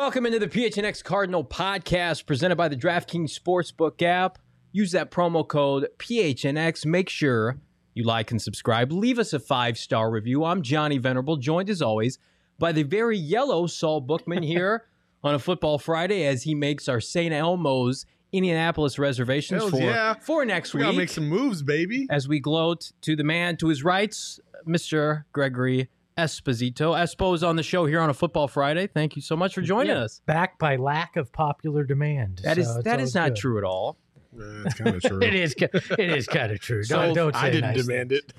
Welcome into the PHNX Cardinal podcast presented by the DraftKings Sportsbook app. Use that promo code PHNX. Make sure you like and subscribe. Leave us a 5-star review. I'm Johnny Venerable, joined as always by the very yellow Saul Bookman here on a Football Friday as he makes our St. Elmo's Indianapolis reservations for next week. We gotta make some moves, baby. As we gloat to the man to his rights, Mr. Gregory Esposito. Espo's on the show here on a Football Friday. Thank you so much for joining us. Back by lack of popular demand. That is not true at all. It's kind of true. It is kind of true. So don't say I didn't nice demand things.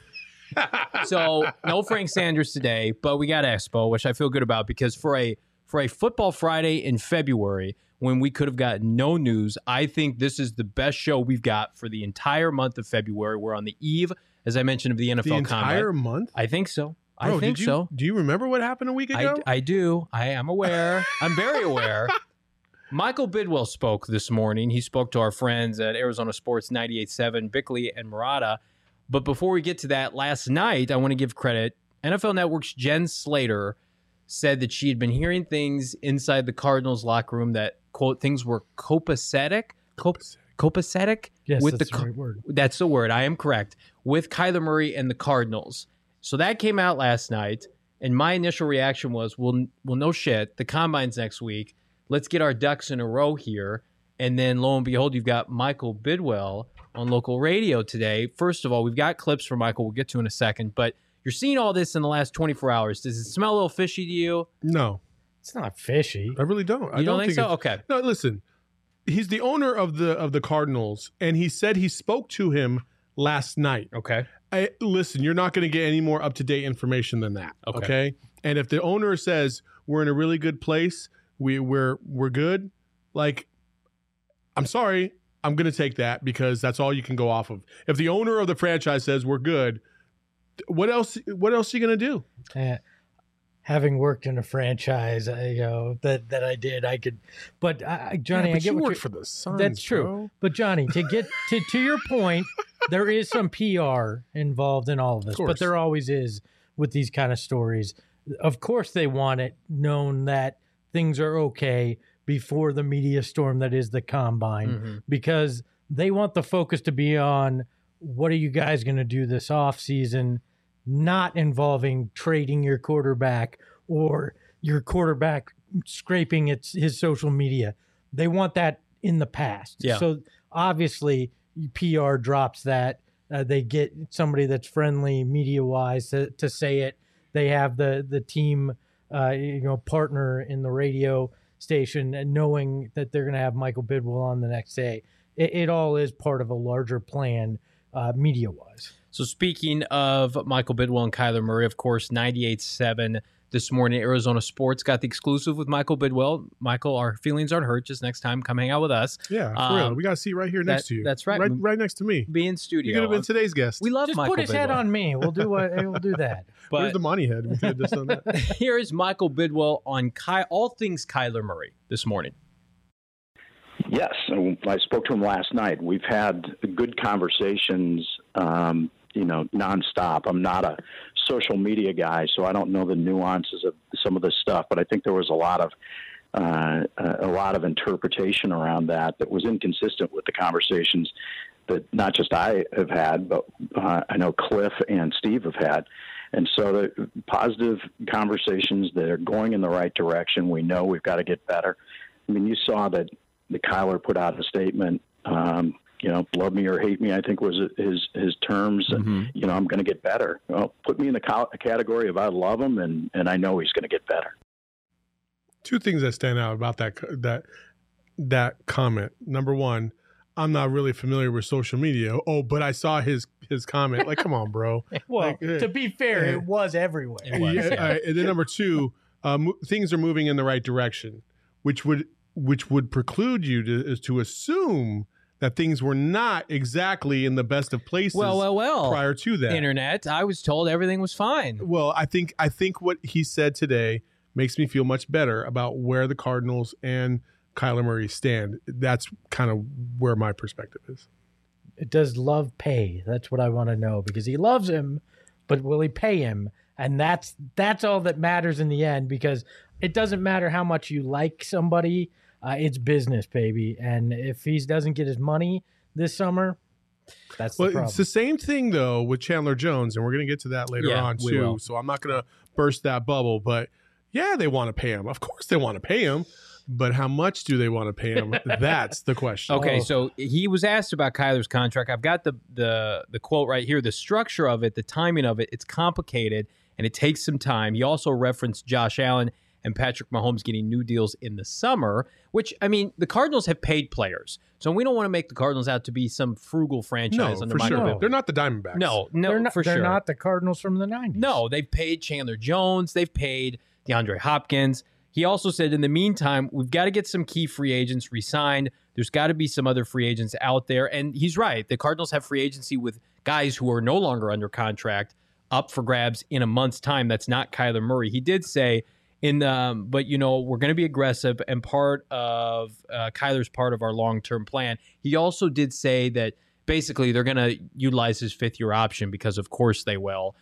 it. So no Frank Sanders today, but we got Espo, which I feel good about because for a Football Friday in February, when we could have gotten no news, I think this is the best show we've got for the entire month of February. We're on the eve, as I mentioned, of the NFL The entire combine. month? I think so. Bro, I think so. Do you remember what happened a week ago? I do. I am aware. I'm very aware. Michael Bidwell spoke this morning. He spoke to our friends at Arizona Sports 98.7, Bickley and Murata. But before we get to that, last night, I want to give credit. NFL Network's Jen Slater said that she had been hearing things inside the Cardinals locker room that, quote, things were copacetic. Copacetic? Yes, with that's the right word. That's the word. I am correct. With Kyler Murray and the Cardinals. So that came out last night, and my initial reaction was, well, no shit. The Combine's next week. Let's get our ducks in a row here. And then, lo and behold, you've got Michael Bidwell on local radio today. First of all, we've got clips for Michael we'll get to in a second. But you're seeing all this in the last 24 hours. Does it smell a little fishy to you? No. It's not fishy. I really don't. You don't think so? Okay. No, listen. He's the owner of the Cardinals, and he said he spoke to him last night. Okay. Listen, you're not going to get any more up-to-date information than that. Okay. And if the owner says we're in a really good place, we're good, like, I'm sorry, I'm going to take that because that's all you can go off of. If the owner of the franchise says we're good, what else are you going to do? Having worked in a franchise, that I did, I could. But Johnny, I get you what work for the Suns. That's true. Bro. But Johnny, to get to your point, there is some PR involved in all of this, but there always is with these kind of stories. Of course, they want it known that things are okay before the media storm that is the Combine, because they want the focus to be on what are you guys going to do this offseason, not involving trading your quarterback or your quarterback scraping his social media. They want that in the past. Yeah. So obviously PR drops that. They get somebody that's friendly media-wise to say it. They have the team partner in the radio station and knowing that they're going to have Michael Bidwell on the next day. It all is part of a larger plan media-wise. So speaking of Michael Bidwell and Kyler Murray, of course, 98.7 this morning, Arizona Sports got the exclusive with Michael Bidwell. Michael, our feelings aren't hurt. Just next time, come hang out with us. Yeah, for real. We got a seat right here next to you. That's right. Right next to me. Be in studio. You could have been today's guest. We love Just Michael put his Bidwell. head on me. We'll do that. But Where's the money head? We could have just done that. here is Michael Bidwell on all things Kyler Murray this morning. Yes, I spoke to him last night. We've had good conversations, nonstop. I'm not a social media guy, so I don't know the nuances of some of this stuff. But I think there was a lot of interpretation around that was inconsistent with the conversations that not just I have had, but I know Cliff and Steve have had. And so the positive conversations that are going in the right direction. We know we've got to get better. I mean, you saw that the Kyler put out a statement, love me or hate me, I think was his terms. Mm-hmm. And, I'm going to get better. Well, put me in the category of I love him, and I know he's going to get better. Two things that stand out about that comment. Number one, I'm not really familiar with social media. Oh, but I saw his comment. Like, come on, bro. Well, to be fair, it was everywhere. It was, yeah. And then number two, things are moving in the right direction, which would preclude you to assume that things were not exactly in the best of places. Well. Prior to that, Internet, I was told everything was fine. Well, I think what he said today makes me feel much better about where the Cardinals and Kyler Murray stand. That's kind of where my perspective is. Does love pay? That's what I want to know, because he loves him, but will he pay him? And that's all that matters in the end, because it doesn't matter how much you like somebody. It's business, baby. And if he doesn't get his money this summer, that's the problem. It's the same thing, though, with Chandler Jones, and we're going to get to that later on, too. So I'm not going to burst that bubble. But, yeah, they want to pay him. Of course they want to pay him. But how much do they want to pay him? That's the question. Okay, so he was asked about Kyler's contract. I've got the quote right here. The structure of it, the timing of it, it's complicated, and it takes some time. He also referenced Josh Allen and Patrick Mahomes getting new deals in the summer, which, I mean, the Cardinals have paid players. So we don't want to make the Cardinals out to be some frugal franchise. No, for sure. They're not the Diamondbacks. No, they're not the Cardinals from the 90s. No, they've paid Chandler Jones. They've paid DeAndre Hopkins. He also said, in the meantime, we've got to get some key free agents re-signed. There's got to be some other free agents out there. And he's right. The Cardinals have free agency with guys who are no longer under contract up for grabs in a month's time. That's not Kyler Murray. He did say, but, you know, we're going to be aggressive, and part of Kyler's part of our long-term plan. He also did say that basically they're going to utilize his fifth-year option because, of course, they will.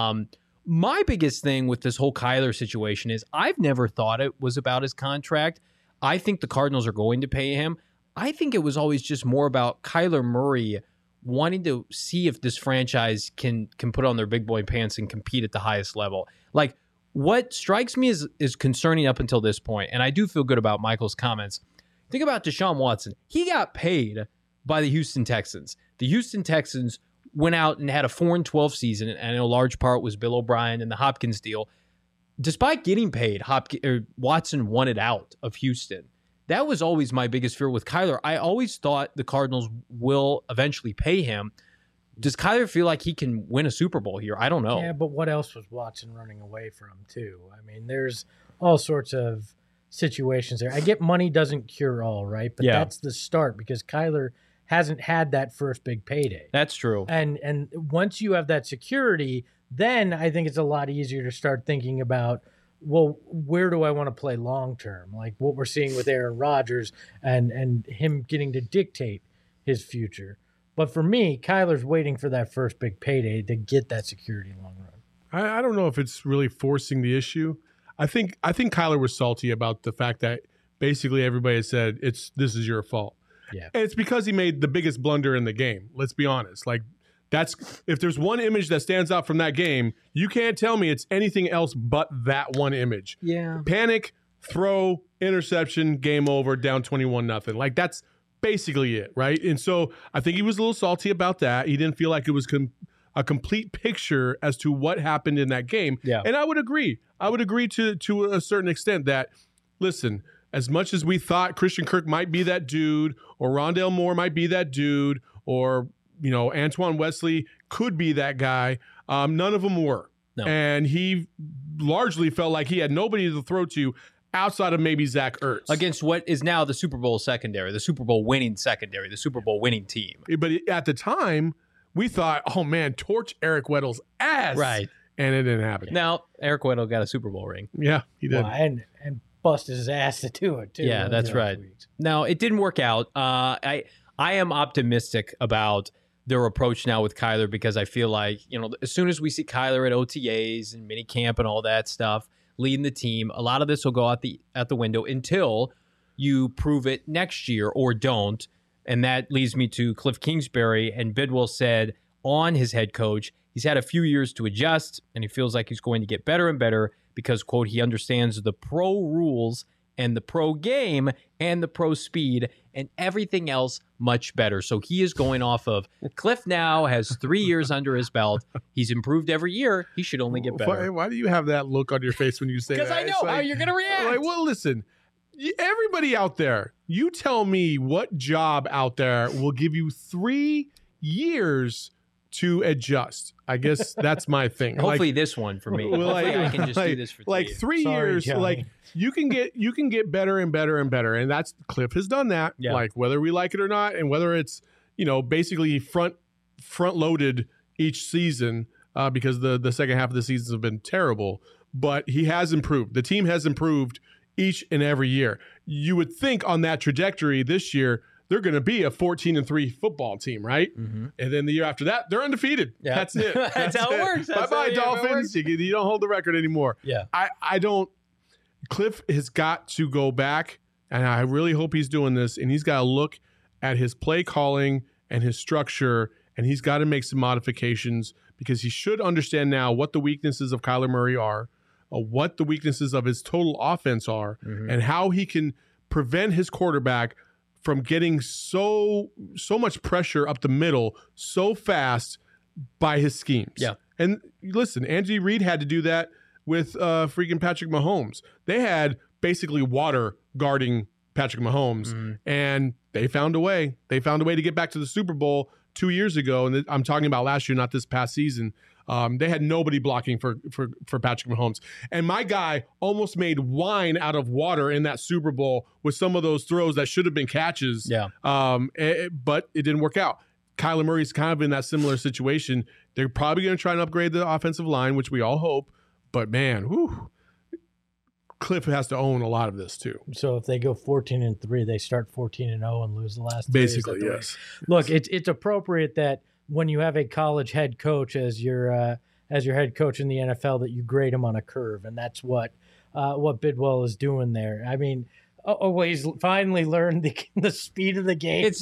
My biggest thing with this whole Kyler situation is I've never thought it was about his contract. I think the Cardinals are going to pay him. I think it was always just more about Kyler Murray wanting to see if this franchise can put on their big boy pants and compete at the highest level. Like, what strikes me is concerning up until this point, and I do feel good about Michael's comments. Think about Deshaun Watson. He got paid by the Houston Texans. The Houston Texans went out and had a 4-12 season, and a large part was Bill O'Brien and the Hopkins deal. Despite getting paid, Watson wanted out of Houston. That was always my biggest fear with Kyler. I always thought the Cardinals will eventually pay him. Does Kyler feel like he can win a Super Bowl here? I don't know. Yeah, but what else was Watson running away from, too? I mean, there's all sorts of situations there. I get money doesn't cure all, right? But that's the start, because Kyler hasn't had that first big payday. That's true. And once you have that security, then I think it's a lot easier to start thinking about, well, where do I want to play long term? Like what we're seeing with Aaron Rodgers and him getting to dictate his future. But for me, Kyler's waiting for that first big payday to get that security long run. I don't know if it's really forcing the issue. I think Kyler was salty about the fact that basically everybody has said this is your fault. Yeah. And it's because he made the biggest blunder in the game. Let's be honest. Like, if there's one image that stands out from that game, you can't tell me it's anything else but that one image. Yeah. Panic, throw, interception, game over, down 21-0. Like, that's basically it, right? And so I think he was a little salty about that. He didn't feel like it was a complete picture as to what happened in that game. Yeah. And I would agree. I would agree to a certain extent that, listen, as much as we thought Christian Kirk might be that dude, or Rondale Moore might be that dude, or, you know, Antoine Wesley could be that guy, none of them were. No. And he largely felt like he had nobody to throw to outside of maybe Zach Ertz. Against what is now the Super Bowl secondary, the Super Bowl winning secondary, the Super Bowl winning team. But at the time, we thought, oh, man, torch Eric Weddle's ass. Right. And it didn't happen. Now, Eric Weddle got a Super Bowl ring. Yeah, he did. Well, and busted his ass to do it, too. Yeah, that's right. Now, it didn't work out. I am optimistic about their approach now with Kyler, because I feel like, you know, as soon as we see Kyler at OTAs and minicamp and all that stuff, leading the team, a lot of this will go out the window until you prove it next year or don't. And that leads me to Cliff Kingsbury. And Bidwell said on his head coach, he's had a few years to adjust, and he feels like he's going to get better and better because, quote, he understands the pro rules and the pro game and the pro speed and everything else much better. So he is going off of Cliff now has 3 years under his belt. He's improved every year. He should only get better. Why do you have that look on your face when you say that? Because I know how you're going to react. Like, well, listen, everybody out there, you tell me what job out there will give you 3 years to adjust. I guess that's my thing. Hopefully this one for me. Well, Hopefully I can just do this for 3 years. 3 years, Johnny. like you can get better and better and better. And that's Cliff has done that. Yeah. Like whether we like it or not, and whether it's, you know, basically front loaded each season because the second half of the seasons have been terrible. But he has improved. The team has improved each and every year. You would think on that trajectory this year, they're going to be a 14-3 football team, right? Mm-hmm. And then the year after that, they're undefeated. Yeah. That's it. That's how it works. Bye-bye, Dolphins. You don't hold the record anymore. Yeah. I don't. Cliff has got to go back, and I really hope he's doing this, and he's got to look at his play calling and his structure, and he's got to make some modifications because he should understand now what the weaknesses of Kyler Murray are, what the weaknesses of his total offense are, and how he can prevent his quarterback from getting so much pressure up the middle so fast by his schemes. Yeah. And listen, Andy Reid had to do that with freaking Patrick Mahomes. They had basically water guarding Patrick Mahomes, and they found a way. They found a way to get back to the Super Bowl 2 years ago, and I'm talking about last year, not this past season. They had nobody blocking for Patrick Mahomes. And my guy almost made wine out of water in that Super Bowl with some of those throws that should have been catches. Yeah. But it didn't work out. Kyler Murray's kind of in that similar situation. They're probably going to try and upgrade the offensive line, which we all hope. But, man, Cliff has to own a lot of this, too. So if they go 14-3, they start 14-0 and lose the last Basically, three. yes. Look, it's appropriate that when you have a college head coach as your head coach in the NFL, that you grade him on a curve, and that's what Bidwell is doing there. I mean, he's finally learned the speed of the game. It's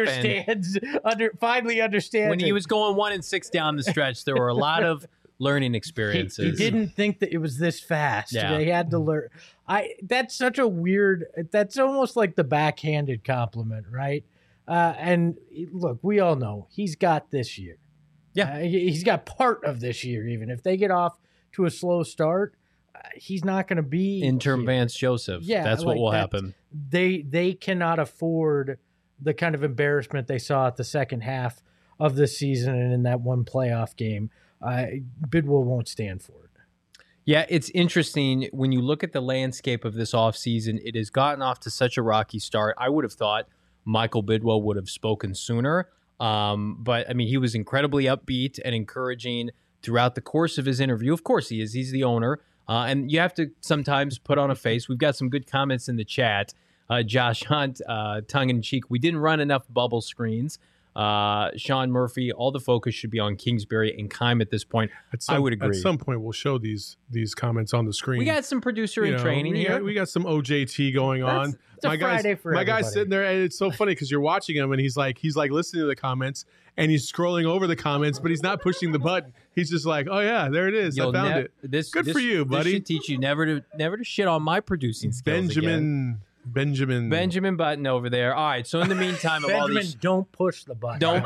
finally understands. When he was going 1-6 down the stretch, there were a lot of learning experiences. He didn't think that it was this fast. Yeah. They had to learn. That's such a weird. That's almost like the backhanded compliment, right? And look, we all know he's got this year. Yeah. He's got part of this year. Even if they get off to a slow start, he's not going to be interim Vance Joseph. Yeah, that's what will happen. They cannot afford the kind of embarrassment they saw at the second half of the season and in that one playoff game. Bidwell won't stand for it. Yeah, it's interesting when you look at the landscape of this offseason. It has gotten off to such a rocky start. I would have thought Michael Bidwell would have spoken sooner. But, I mean, he was incredibly upbeat and encouraging throughout the course of his interview. Of course he is. He's the owner. And you have to sometimes put on a face. We've got some good comments in the chat. Josh Hunt, tongue-in-cheek, we didn't run enough bubble screens. Sean Murphy, all the focus should be on Kingsbury and Keim at this point. I would agree. At some point, we'll show these comments on the screen. We got some producer in training here. We got some OJT going on. It's a Friday for everybody. My guy's sitting there, and it's so funny because you're watching him, and he's like listening to the comments, and he's scrolling over the comments, but he's not pushing the button. He's just like, oh yeah, there it is. I found it. Good for you, buddy. This should teach you never to shit on my producing skills again. Benjamin Button over there. All right. So in the meantime, don't push the button. Don't.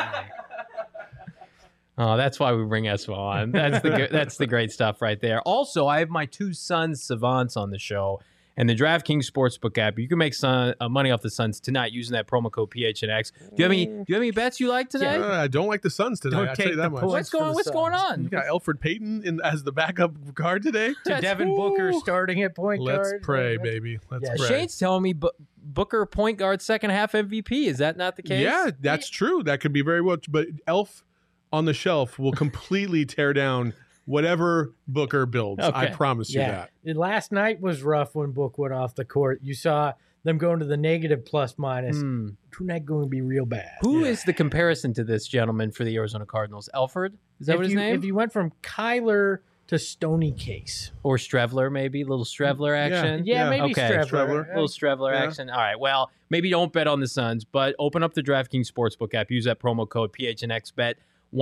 Oh, that's why we bring Espo on. That's the great stuff right there. Also, I have my two Suns savants on the show, and the DraftKings Sportsbook app. You can make money off the Suns tonight using that promo code PHNX. Do you have any bets you like today? I don't like the Suns tonight. I'll tell you that much. What's going on? You got Elfrid Payton as the backup guard today. Devin Booker starting at point guard. Let's pray, baby. Let's pray. Shane's telling me Booker point guard second half MVP. Is that not the case? Yeah, that's true. That could be very well. But Elf on the shelf will completely tear down whatever Booker builds. Okay. I promise you that. Last night was rough when Book went off the court. You saw them going to the negative plus minus. Tonight going to be real bad. Who is the comparison to this gentleman for the Arizona Cardinals? Elfrid? Is that what his name? If you went from Kyler to Stony Case. Or Strevler, maybe. A little Strevler action. Yeah, maybe Strevler. A little Strevler action. All right. Well, maybe don't bet on the Suns, but open up the DraftKings Sportsbook app. Use that promo code PHNXBet.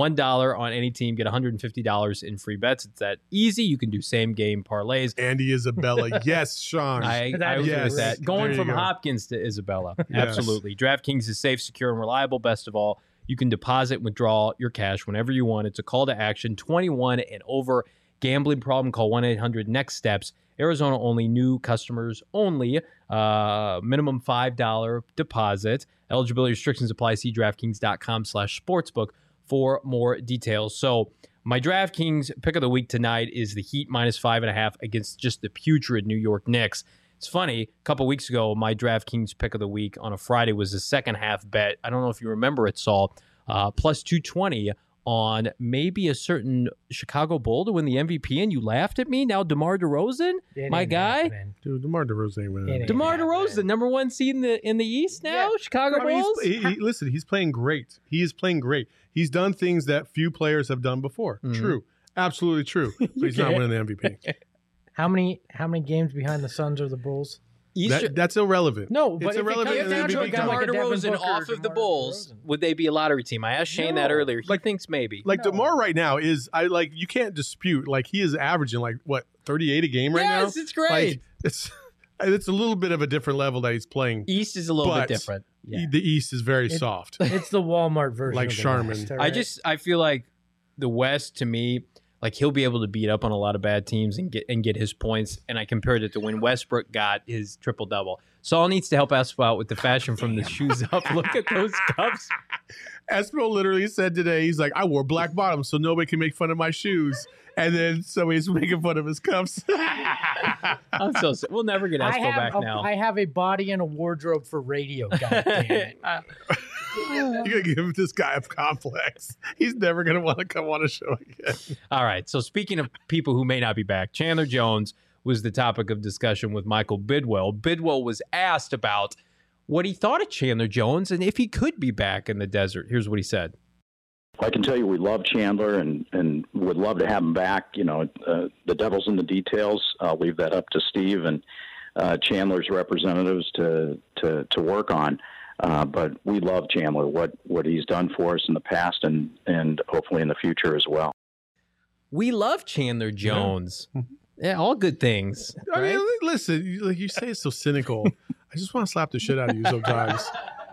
$1 on any team, get $150 in free bets. It's that easy. You can do same game parlays. Andy Isabella. Yes, Sean. I agree with that. Going from Hopkins to Isabella. Yes. Absolutely. DraftKings is safe, secure, and reliable. Best of all, you can deposit and withdraw your cash whenever you want. It's a call to action. 21 and over. Gambling problem, call 1-800-NEXT-STEPS. Arizona only, new customers only. Minimum $5 deposit. Eligibility restrictions apply. See DraftKings.com/sportsbook for more details. So my DraftKings pick of the week tonight is the Heat -5.5 against just the putrid New York Knicks. It's funny, a couple weeks ago, my DraftKings pick of the week on a Friday was a second half bet. I don't know if you remember it, Saul, plus 220 on maybe a certain Chicago Bull to win the MVP, and you laughed at me. Now DeMar DeRozan, my guy. Dude, DeMar DeRozan ain't winning. DeMar DeRozan, number one seed in the East now, Chicago Bulls. Listen, he's playing great. He is playing great. He's done things that few players have done before. True. Absolutely true. But he's not winning the MVP. How many games behind the Suns are the Bulls? That's irrelevant. No, but it's if irrelevant. It comes down to a guy like DeMar a Devin DeRozan Booker off or of the DeMar Bulls, DeRozan. would they be a lottery team? I asked Shane that earlier. He thinks maybe. Like DeMar right now is you can't dispute he is averaging 38 a game right now. Yes, it's great. It's a little bit of a different level that he's playing. East is a little bit different. Yeah. The East is very soft. It's the Walmart version. Like of the Charmin. West, all I right? I feel like the West to me, he'll be able to beat up on a lot of bad teams and get his points. And I compared it to when Westbrook got his triple double. Saul needs to help Espo out with the fashion from the shoes up. Look at those cuffs. Espo literally said today, he's like, I wore black bottoms so nobody can make fun of my shoes. And then somebody's making fun of his cuffs. I'm so sad. We'll never get Espo back now. I have a body and a wardrobe for radio. God damn it. You're going to give this guy a complex. He's never going to want to come on a show again. All right. So speaking of people who may not be back, Chandler Jones was the topic of discussion with Michael Bidwell. Bidwell was asked about what he thought of Chandler Jones and if he could be back in the desert. Here's what he said. I can tell you we love Chandler and would love to have him back. The devil's in the details. I'll leave that up to Steve and Chandler's representatives to work on. But we love Chandler, what he's done for us in the past and hopefully in the future as well. We love Chandler Jones. Yeah, all good things. I right? mean, listen, you say it's so cynical. I just want to slap the shit out of you sometimes.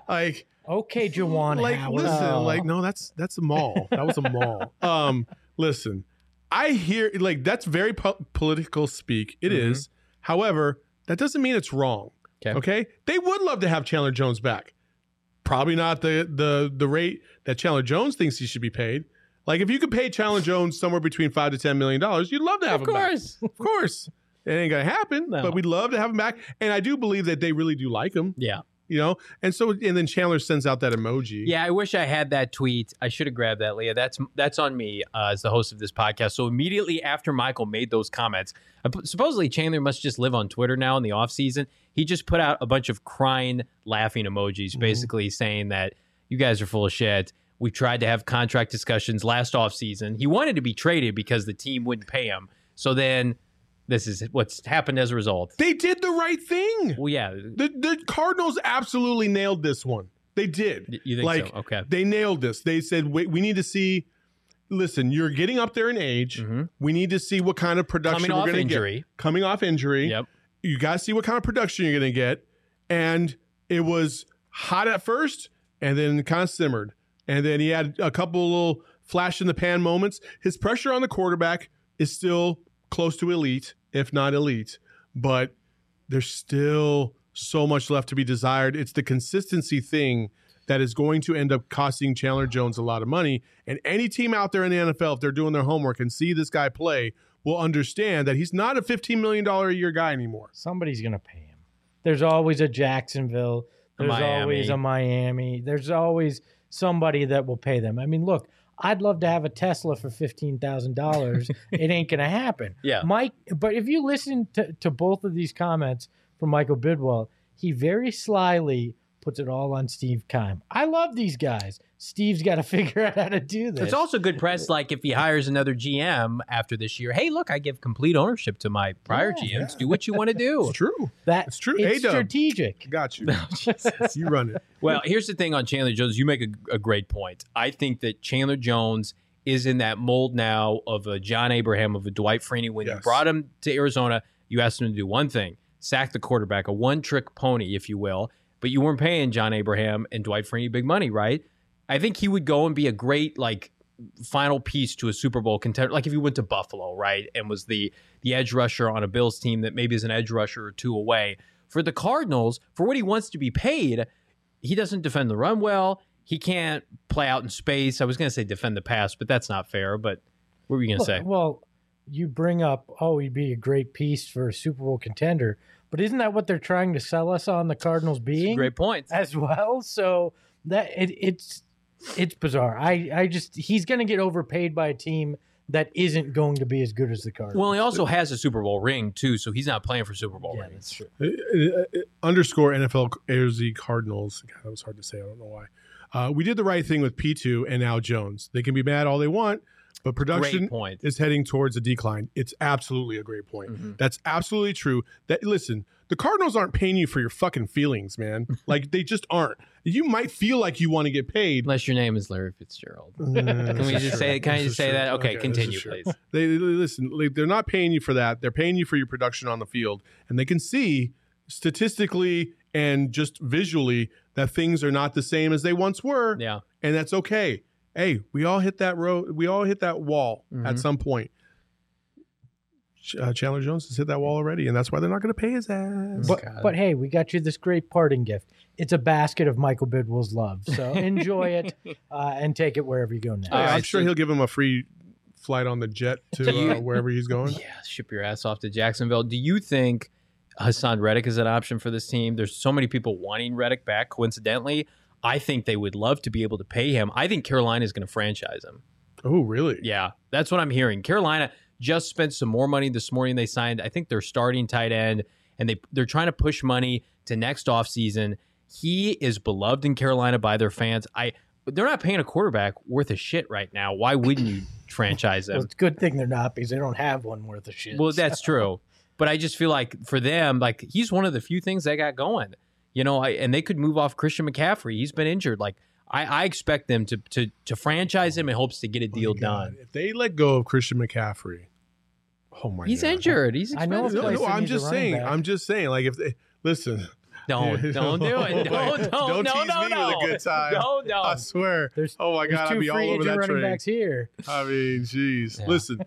Okay, Juwan Howard. Listen, no, that's a mall. That was a mall. Listen, I hear that's very political speak. It is. However, that doesn't mean it's wrong. Okay? They would love to have Chandler Jones back. Probably not the rate that Chandler Jones thinks he should be paid. If you could pay Chandler Jones somewhere between $5 to $10 million, you'd love to have him back. Of course. It ain't gonna happen, but we'd love to have him back. And I do believe that they really do like him. Yeah. And then Chandler sends out that emoji. Yeah, I wish I had that tweet. I should have grabbed that, Leah. That's on me as the host of this podcast. So immediately after Michael made those comments, supposedly Chandler must just live on Twitter now in the off season. He just put out a bunch of crying, laughing emojis, basically saying that you guys are full of shit. We tried to have contract discussions last off season. He wanted to be traded because the team wouldn't pay him. So then this is what's happened as a result. They did the right thing. Well, yeah. The Cardinals absolutely nailed this one. They did. You think so? Okay. They nailed this. They said, wait, we need to see. Listen, you're getting up there in age. We need to see what kind of production we're going to get. Coming off injury. Yep. You got to see what kind of production you're going to get. And it was hot at first and then kind of simmered. And then he had a couple little flash in the pan moments. His pressure on the quarterback is still close to elite, if not elite. But there's still so much left to be desired. It's the consistency thing that is going to end up costing Chandler Jones a lot of money. And any team out there in the NFL, if they're doing their homework and see this guy play, will understand that he's not a $15 million a year guy anymore. Somebody's going to pay him. There's always a Jacksonville. There's always a Miami. There's always somebody that will pay them. I mean, look, I'd love to have a Tesla for $15,000. It ain't going to happen. Yeah. But if you listen to both of these comments from Michael Bidwell, he very slyly puts it all on Steve Keim. I love these guys. Steve's got to figure out how to do this. It's also good press, if he hires another GM after this year. Hey, look, I give complete ownership to my prior GMs. Yeah. Do what you want to do. It's true. It's true. It's strategic. Got you. You run it. Well, here's the thing on Chandler Jones. You make a great point. I think that Chandler Jones is in that mold now of a John Abraham, of a Dwight Freeney. When you brought him to Arizona, you asked him to do one thing, sack the quarterback, a one-trick pony, if you will. But you weren't paying John Abraham and Dwight Freeney big money, right? I think he would go and be a great, final piece to a Super Bowl contender. Like if he went to Buffalo, right, and was the edge rusher on a Bills team that maybe is an edge rusher or two away. For the Cardinals, for what he wants to be paid, he doesn't defend the run well. He can't play out in space. I was going to say defend the pass, but that's not fair. But what were you going to say? Well, you bring up, he'd be a great piece for a Super Bowl contender. But isn't that what they're trying to sell us on the Cardinals being? Great point. As well. So that it's bizarre. He's going to get overpaid by a team that isn't going to be as good as the Cardinals. Well, he also has a Super Bowl ring too, so he's not playing for Super Bowl rings. That's true. Underscore NFL AZ Cardinals. God, that was hard to say. I don't know why. We did the right thing with P2 and now Jones. They can be mad all they want, But production Great point. is heading towards a decline. It's absolutely a great point. Mm-hmm. That's absolutely true. Listen, the Cardinals aren't paying you for your fucking feelings, man. Like, they just aren't. You might feel like you want to get paid. Unless your name is Larry Fitzgerald. Can we just say? Can I just say that? Okay, continue, please. Listen, they're not paying you for that. They're paying you for your production on the field, and they can see statistically and just visually that things are not the same as they once were. Yeah, and that's okay. Hey, we all hit that road. We all hit that wall at some point. Chandler Jones has hit that wall already, and that's why they're not going to pay his ass. But hey, we got you this great parting gift. It's a basket of Michael Bidwell's love. So enjoy it and take it wherever you go next. I'm sure he'll give him a free flight on the jet to wherever he's going. Yeah, ship your ass off to Jacksonville. Do you think Hassan Reddick is an option for this team? There's so many people wanting Reddick back. Coincidentally, I think they would love to be able to pay him. I think Carolina is going to franchise him. Oh, really? Yeah, that's what I'm hearing. Carolina just spent some more money this morning. They signed, I think, their starting tight end, and they're trying to push money to next offseason. He is beloved in Carolina by their fans. They're not paying a quarterback worth of shit right now. Why wouldn't you franchise him? Well, it's a good thing they're not, because they don't have one worth of shit. Well, that's true. But I just feel like for them, like, he's one of the few things they got going. You know, and they could move off Christian McCaffrey. He's been injured. Like, I expect them to franchise him in hopes to get a deal done. If they let go of Christian McCaffrey, oh my God, he's injured. He's I know. expensive. No, I'm just saying. Like, if they listen, don't do it. Don't tease me with a good time. No. I swear. Oh my God, I'd two be all free over agent that running train. backs here. I mean, jeez. Yeah. Listen,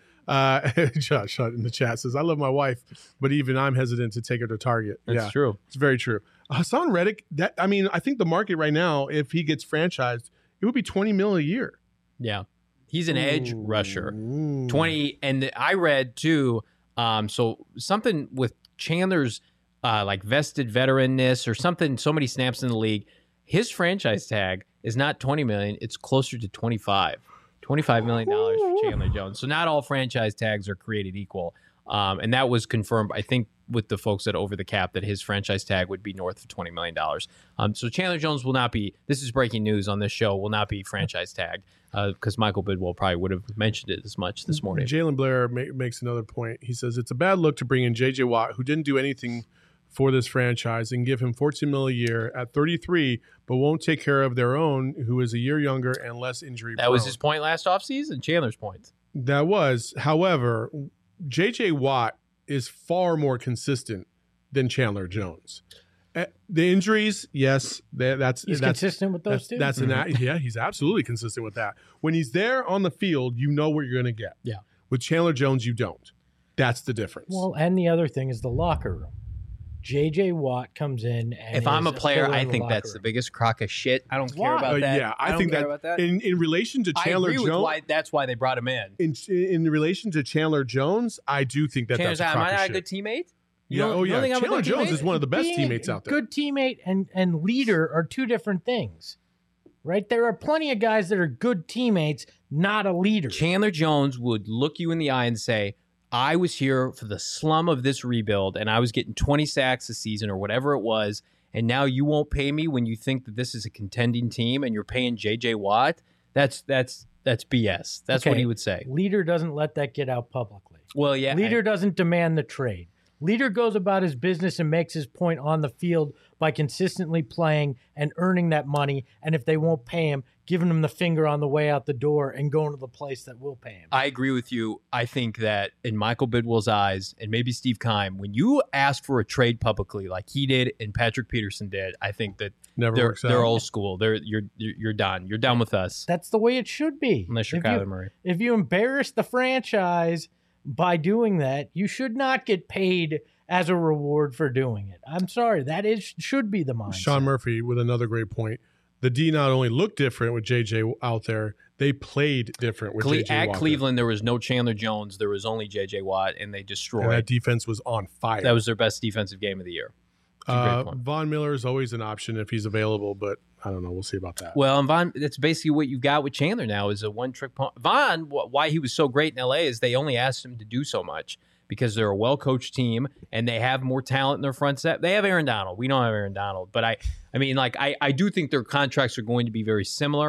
Josh in the chat says, "I love my wife, but even I'm hesitant to take her to Target." That's true. It's very true. Hassan Reddick. I think the market right now, if he gets franchised, it would be $20 million a year. Yeah. He's an edge rusher. 20. And I read too, so something with Chandler's like vested veteranness or something, so many snaps in the league. His franchise tag is not $20 million. It's closer to $25 million for Chandler Jones. So not all franchise tags are created equal. And that was confirmed, I think, with the folks at Over the Cap, that his franchise tag would be north of $20 million. So Chandler Jones will not be, this is breaking news on this show, will not be franchise tagged because Michael Bidwell probably would have mentioned it as much this morning. Jalen Blair makes another point. He says, it's a bad look to bring in J.J. Watt, who didn't do anything for this franchise, and give him $14 million a year at 33, but won't take care of their own, who is a year younger and less injury prone. That was his point last offseason, Chandler's point. That was. However, J.J. Watt is far more consistent than Chandler Jones. The injuries, yes, that's consistent with those two. Yeah, he's absolutely consistent with that. When he's there on the field, you know what you're going to get. Yeah. With Chandler Jones, you don't. That's the difference. Well, and the other thing is the locker room. J.J. Watt comes in, and if I'm a player, I think that's that's the biggest crock of shit. I don't care about that. Yeah, I think that in relation to Chandler I agree Jones, with that's why they brought him in. In relation to Chandler Jones, I do think that's a crock of shit. Am I not a good teammate? Chandler Jones is one of the best teammates out there. Good teammate and leader are two different things, right? There are plenty of guys that are good teammates, not a leader. Chandler Jones would look you in the eye and say, I was here for the slum of this rebuild, and I was getting 20 sacks a season or whatever it was, and now you won't pay me when you think that this is a contending team and you're paying J.J. Watt? That's BS. That's what he would say. Leader doesn't let that get out publicly. Well, yeah. Leader doesn't demand the trade. Leader goes about his business and makes his point on the field by consistently playing and earning that money. And if they won't pay him, giving him the finger on the way out the door and going to the place that will pay him. I agree with you. I think that in Michael Bidwell's eyes, and maybe Steve Keim, when you ask for a trade publicly like he did and Patrick Peterson did, I think that they're old school. You're done. You're done with us. That's the way it should be. Unless you're Kyler Murray. If you embarrass the franchise by doing that, you should not get paid as a reward for doing it. I'm sorry. That should be the mindset. Sean Murphy with another great point. The D not only looked different with JJ out there, they played different with JJ at Watt. Cleveland, there was no Chandler Jones. There was only JJ Watt, and they destroyed. And that defense was on fire. That was their best defensive game of the year. Von Miller is always an option if he's available, but I don't know. We'll see about that. Well, and Von, that's basically what you've got with Chandler now is a one-trick pony. Von, why he was so great in L.A. is they only asked him to do so much because they're a well-coached team and they have more talent in their front set. They have Aaron Donald. We don't have Aaron Donald. But I do think their contracts are going to be very similar.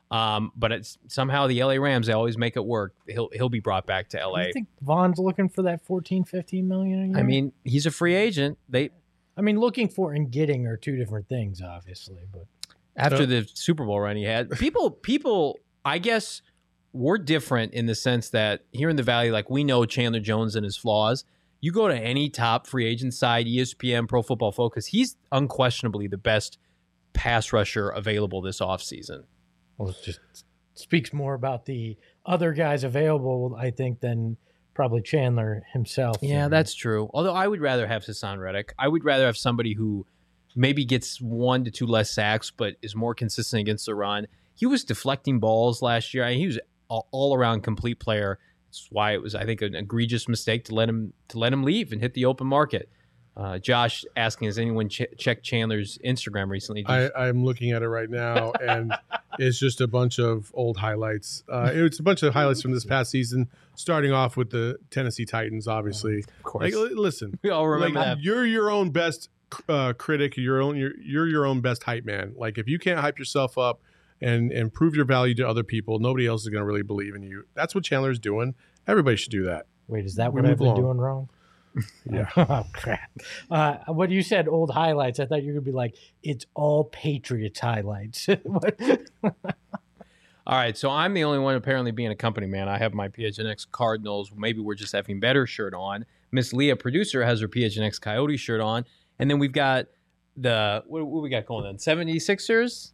But it's somehow the LA Rams, they always make it work. He'll be brought back to LA. You think Vaughn's looking for that 14, 15 million a year? I mean, he's a free agent. Looking for and getting are two different things, obviously. But after the Super Bowl run he had, people, I guess, we're different in the sense that here in the Valley, like, we know Chandler Jones and his flaws. You go to any top free agent side, ESPN, Pro Football Focus, he's unquestionably the best pass rusher available this offseason. Well, it just speaks more about the other guys available, I think, than probably Chandler himself. Yeah, that's true. Although I would rather have Hassan Reddick. I would rather have somebody who maybe gets 1 to 2 less sacks, but is more consistent against the run. He was deflecting balls last year. He was an all-around complete player. That's why it was, I think, an egregious mistake to let him leave and hit the open market. Josh asking, has anyone checked Chandler's Instagram recently? I'm looking at it right now, and it's just a bunch of old highlights. It's a bunch of highlights from this past season, starting off with the Tennessee Titans, obviously. Of course. Like, listen, we all remember that. You're your own best critic. You're your own best hype man. Like, if you can't hype yourself up and prove your value to other people, nobody else is going to really believe in you. That's what Chandler's doing. Everybody should do that. Wait, is that what I've been doing wrong? Yeah. Oh, crap. When you said old highlights, I thought you were going to be like, it's all Patriots highlights. All right, so I'm the only one apparently being a company man. I have my PHNX Cardinals. Maybe we're just having better shirt on. Miss Leah, producer, has her PHNX Coyote shirt on. And then we've got what we got going on? 76ers?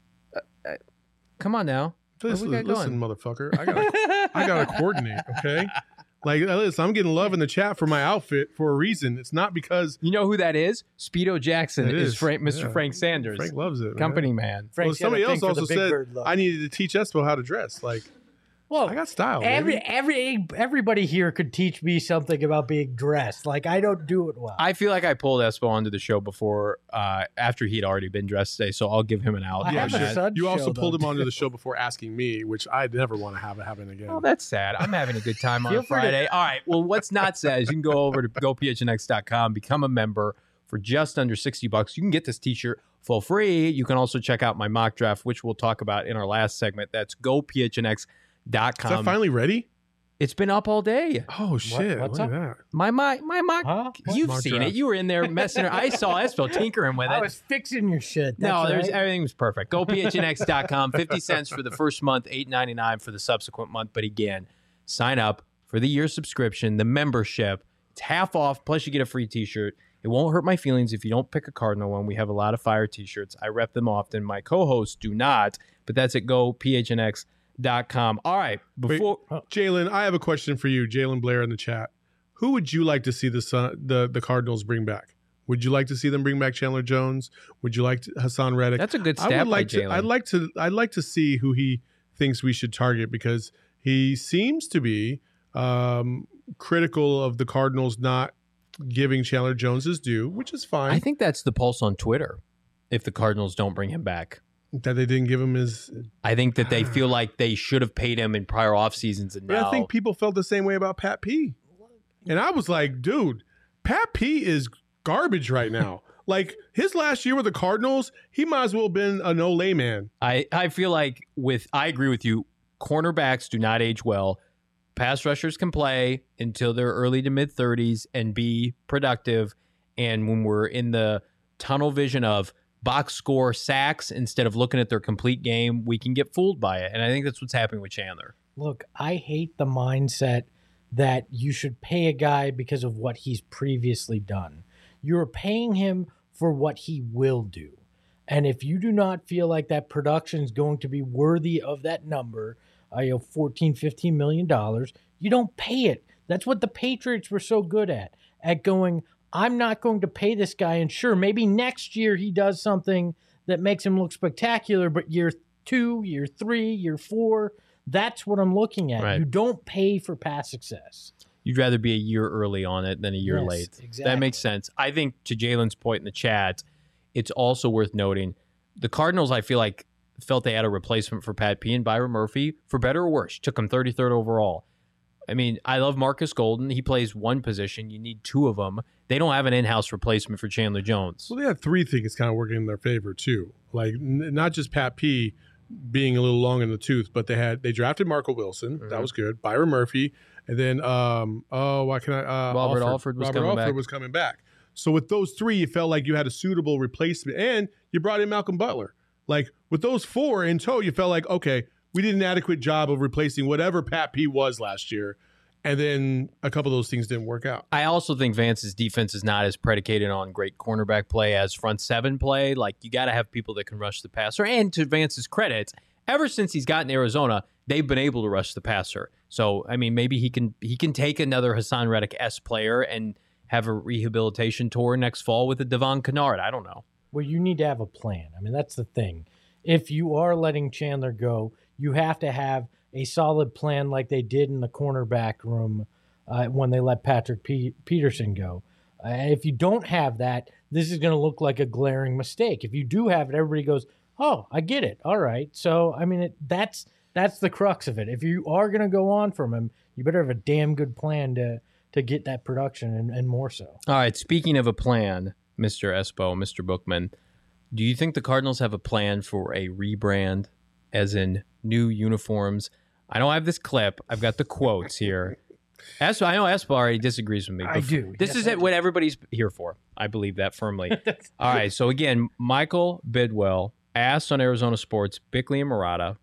Come on now. Listen, motherfucker. I gotta coordinate, okay? Like, listen, I'm getting love in the chat for my outfit for a reason. It's not because... You know who that is? Speedo Jackson is Mr. Frank Sanders. Frank loves it, company man. Well, somebody else also said I needed to teach Espo how to dress. Like, well, I got style. Everybody here could teach me something about being dressed. Like, I don't do it well. I feel like I pulled Espo onto the show before, after he'd already been dressed today, so I'll give him an out. You also pulled him onto the show before asking me, which I'd never want to have it happen again. Oh, that's sad. I'm having a good time on a Friday. All right. Well, what's not sad is you can go over to gophnx.com, become a member for just under $60. You can get this t-shirt for free. You can also check out my mock draft, which we'll talk about in our last segment. That's gophnx.com. Is that finally ready? It's been up all day. Oh shit! What's up? That? My mock. You've mock seen draft. it. You were in there messing. I saw Espo tinkering with it. I was fixing your shit. That's Everything was perfect. GoPHNX.com. 50 cents for the first month, $8.99 for the subsequent month. But again, sign up for the year subscription, the membership. It's half off. Plus, you get a free T-shirt. It won't hurt my feelings if you don't pick a Cardinal one. We have a lot of fire T-shirts. I rep them often. My co-hosts do not. But that's at GoPHNX.com. All right. Jalen, I have a question for you, Jalen Blair in the chat. Who would you like to see the Cardinals bring back? Would you like to see them bring back Chandler Jones? Would you like Hassan Reddick? That's a good stab by Jalen. I'd like to see who he thinks we should target, because he seems to be critical of the Cardinals not giving Chandler Jones his due, which is fine. I think that's the pulse on Twitter. If the Cardinals don't bring him back. That they didn't give him his... I think that they feel like they should have paid him in prior off seasons, and now... I think people felt the same way about Pat P. And I was like, dude, Pat P is garbage right now. Like, his last year with the Cardinals, he might as well have been a no-lay man. I feel like I agree with you. Cornerbacks do not age well. Pass rushers can play until they're early to mid-30s and be productive. And when we're in the tunnel vision of box score sacks instead of looking at their complete game, we can get fooled by it. And I think that's what's happening with Chandler. Look, I hate the mindset that you should pay a guy because of what he's previously done. You're paying him for what he will do. And if you do not feel like that production is going to be worthy of that number, $14, $15 million, you don't pay it. That's what the Patriots were so good at going, I'm not going to pay this guy, and sure, maybe next year he does something that makes him look spectacular, but year 2, year 3, year 4, that's what I'm looking at. Right. You don't pay for past success. You'd rather be a year early on it than a year late. Exactly. That makes sense. I think to Jalen's point in the chat, it's also worth noting the Cardinals, I feel like, felt they had a replacement for Pat P and Byron Murphy, for better or worse. Took him 33rd overall. I mean, I love Marcus Golden. He plays one position. You need 2 of them. They don't have an in-house replacement for Chandler Jones. Well, they have 3 things kind of working in their favor, too. Like, not just Pat P, being a little long in the tooth, but they drafted Marco Wilson. That was good. Byron Murphy. And then, Robert Alford was coming back. So with those three, you felt like you had a suitable replacement, and you brought in Malcolm Butler. Like with those four in tow, you felt like, okay, we did an adequate job of replacing whatever Pat P was last year. And then a couple of those things didn't work out. I also think Vance's defense is not as predicated on great cornerback play as front seven play. Like, you got to have people that can rush the passer. And to Vance's credit, ever since he's gotten Arizona, they've been able to rush the passer. So, I mean, maybe he can take another Hassan Reddick-esque player and have a rehabilitation tour next fall with a Devon Kennard. I don't know. Well, you need to have a plan. I mean, that's the thing. If you are letting Chandler go, you have to have a solid plan like they did in the cornerback room when they let Patrick Peterson go. If you don't have that, this is going to look like a glaring mistake. If you do have it, everybody goes, oh, I get it. All right. So, I mean, that's the crux of it. If you are going to go on from him, you better have a damn good plan to get that production and more so. All right. Speaking of a plan, Mr. Espo, Mr. Bookman, do you think the Cardinals have a plan for a rebrand, as in new uniforms? I don't have this clip. I've got the quotes here. I know Espo already disagrees with me. I do. This is what everybody's here for. I believe that firmly. All right. So, again, Michael Bidwell asked on Arizona Sports, Bickley and Murata,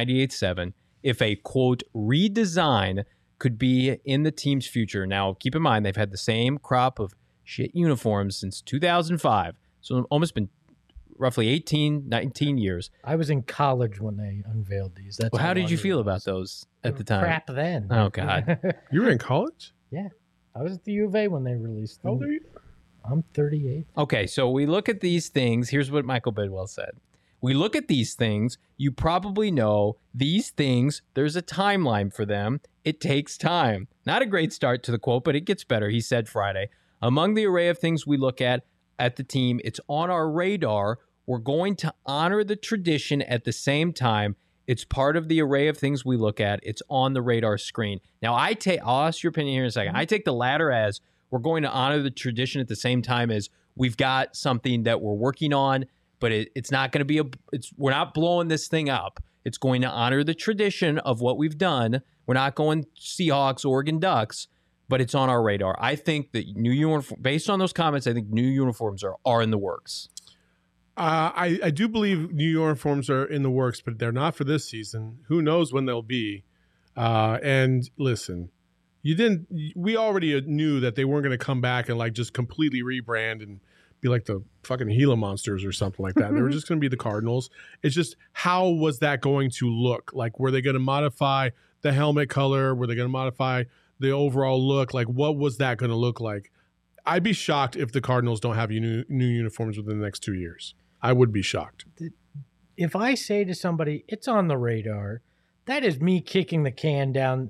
98.7, if a, quote, redesign could be in the team's future. Now, keep in mind, they've had the same crop of shit uniforms since 2005. So, almost been roughly 18, 19 years. I was in college when they unveiled these. That's how did you feel about those at the time? Crap then. Oh, God. You were in college? Yeah. I was at the U of A when they released them. How old are you? I'm 38. Okay, so we look at these things. Here's what Michael Bidwell said. We look at these things. You probably know these things, there's a timeline for them. It takes time. Not a great start to the quote, but it gets better. He said Friday, among the array of things we look at the team, it's on our radar. We're going to honor the tradition at the same time. It's part of the array of things we look at. It's on the radar screen. Now, I'll ask your opinion here in a second. I take the latter as we're going to honor the tradition at the same time as we've got something that we're working on, but it's not going to be we're not blowing this thing up. It's going to honor the tradition of what we've done. We're not going Seahawks, Oregon Ducks, but it's on our radar. I think that new uniform, based on those comments, I think new uniforms are in the works. I do believe new uniforms are in the works, but they're not for this season. Who knows when they'll be? And listen, we already knew that they weren't going to come back and like just completely rebrand and be like the fucking Gila Monsters or something like that. They were just going to be the Cardinals. It's just, how was that going to look? Like, were they going to modify the helmet color? Were they going to modify the overall look? Like, what was that going to look like? I'd be shocked if the Cardinals don't have new uniforms within the next 2 years. I would be shocked. If I say to somebody, it's on the radar, that is me kicking the can down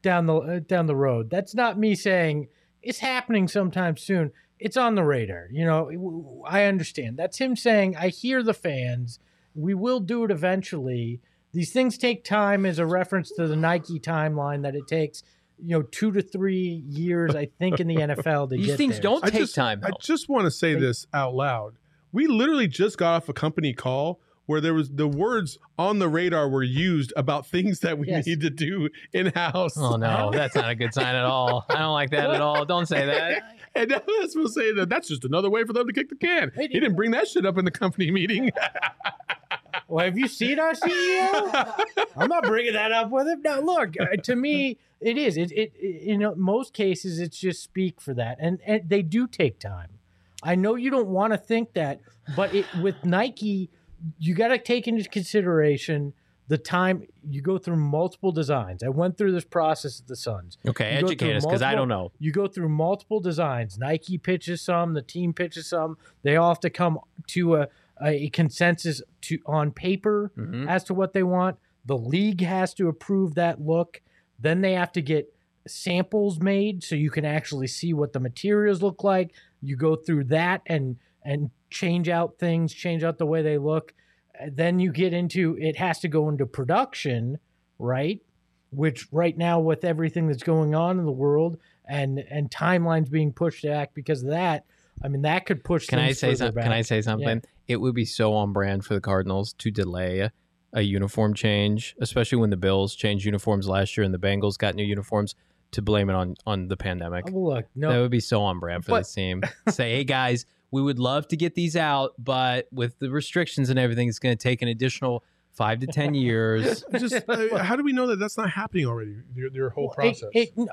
the road. That's not me saying it's happening sometime soon. It's on the radar. You know, I understand. That's him saying, I hear the fans. We will do it eventually. These things take time, as a reference to the Nike timeline that it takes, 2 to 3 years, I think, in the NFL to These get things there. don't take time, though. I just want to say this out loud. We literally just got off a company call where there was the words on the radar were used about things that we need to do in-house. Oh, no, that's not a good sign at all. I don't like that at all. Don't say that. And that's what I'm saying. That's just another way for them to kick the can. He didn't bring that shit up in the company meeting. Well, have you seen our CEO? I'm not bringing that up with him. No, look, to me, it is. Most cases, it's just speak for that. And they do take time. I know you don't want to think that, but with Nike, you got to take into consideration the time. You go through multiple designs. I went through this process at the Suns. Okay, educate us, because I don't know. You go through multiple designs. Nike pitches some, the team pitches some. They all have to come to a consensus on paper as to what they want. The league has to approve that look. Then they have to get samples made so you can actually see what the materials look like. You go through that and change out things, change out the way they look. Then you get into, it has to go into production, right? Which right now, with everything that's going on in the world and timelines being pushed back because of that, I mean, that could push things further back. Can I say something? Yeah. It would be so on brand for the Cardinals to delay a uniform change, especially when the Bills changed uniforms last year and the Bengals got new uniforms, to blame it on the pandemic. Oh, look, no, that would be so on brand for this team. Say, hey guys, we would love to get these out, but with the restrictions and everything, it's going to take an additional 5 to 10 years. Just how do we know that that's not happening already? Your whole process.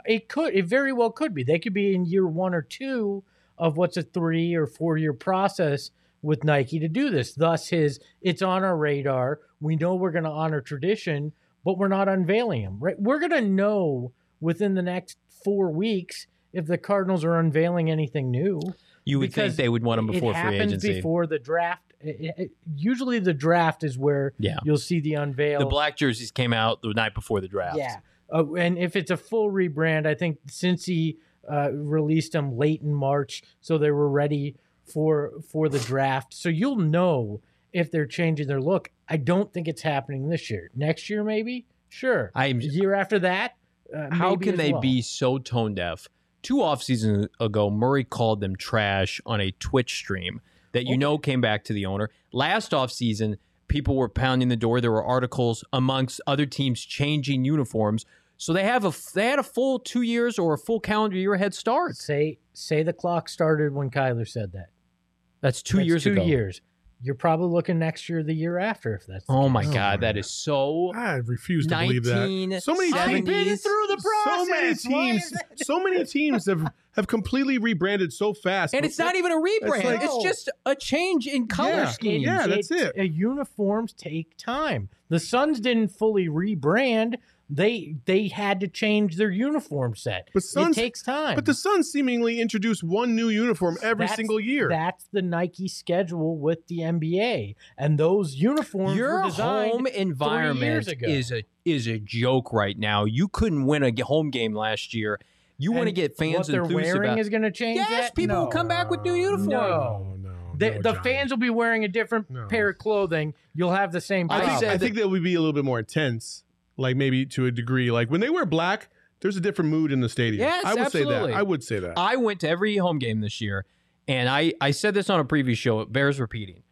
It very well could be. They could be in year 1 or 2 of what's a 3 or 4 year process with Nike to do this. Thus, it's on our radar. We know we're going to honor tradition, but we're not unveiling them. Right? We're going to know within the next 4 weeks if the Cardinals are unveiling anything new. You would think they would want them before free agency. It happens before the draft. Usually the draft is where you'll see the unveil. The black jerseys came out the night before the draft. Yeah. And if it's a full rebrand, I think Cincy released them late in March, so they were ready for the draft. So you'll know if they're changing their look. I don't think it's happening this year. Next year, maybe? Sure. A year after that, how can they be so tone deaf? 2 off seasons ago, Murray called them trash on a Twitch stream that came back to the owner. Last off season, people were pounding the door. There were articles amongst other teams changing uniforms. So they had a full 2 years or a full calendar year head start. Say the clock started when Kyler said that. That's 2 years ago. 2 years. You're probably looking next year, the year after, if that's the case. My God, that is so. I refuse to believe that. So many I've been through the process. So many teams have completely rebranded so fast, and it's not even a rebrand. It's just a change in color scheme. Yeah, that's it. Uniforms take time. The Suns didn't fully rebrand. They had to change their uniform set. But it takes time. But the Suns seemingly introduce one new uniform every single year. That's the Nike schedule with the NBA, and those uniforms were designed home environment 3 years ago. is a joke right now. You couldn't win a home game last year. You want to get fans enthused about. What they're wearing is going to change. Yes, people will come back with new uniforms. No. The fans will be wearing a different pair of clothing. You'll have the same problem. I think that would be a little bit more intense. Like maybe to a degree, like when they wear black, there's a different mood in the stadium. Yes, absolutely. I would say that. I went to every home game this year, and I said this on a previous show. It bears repeating.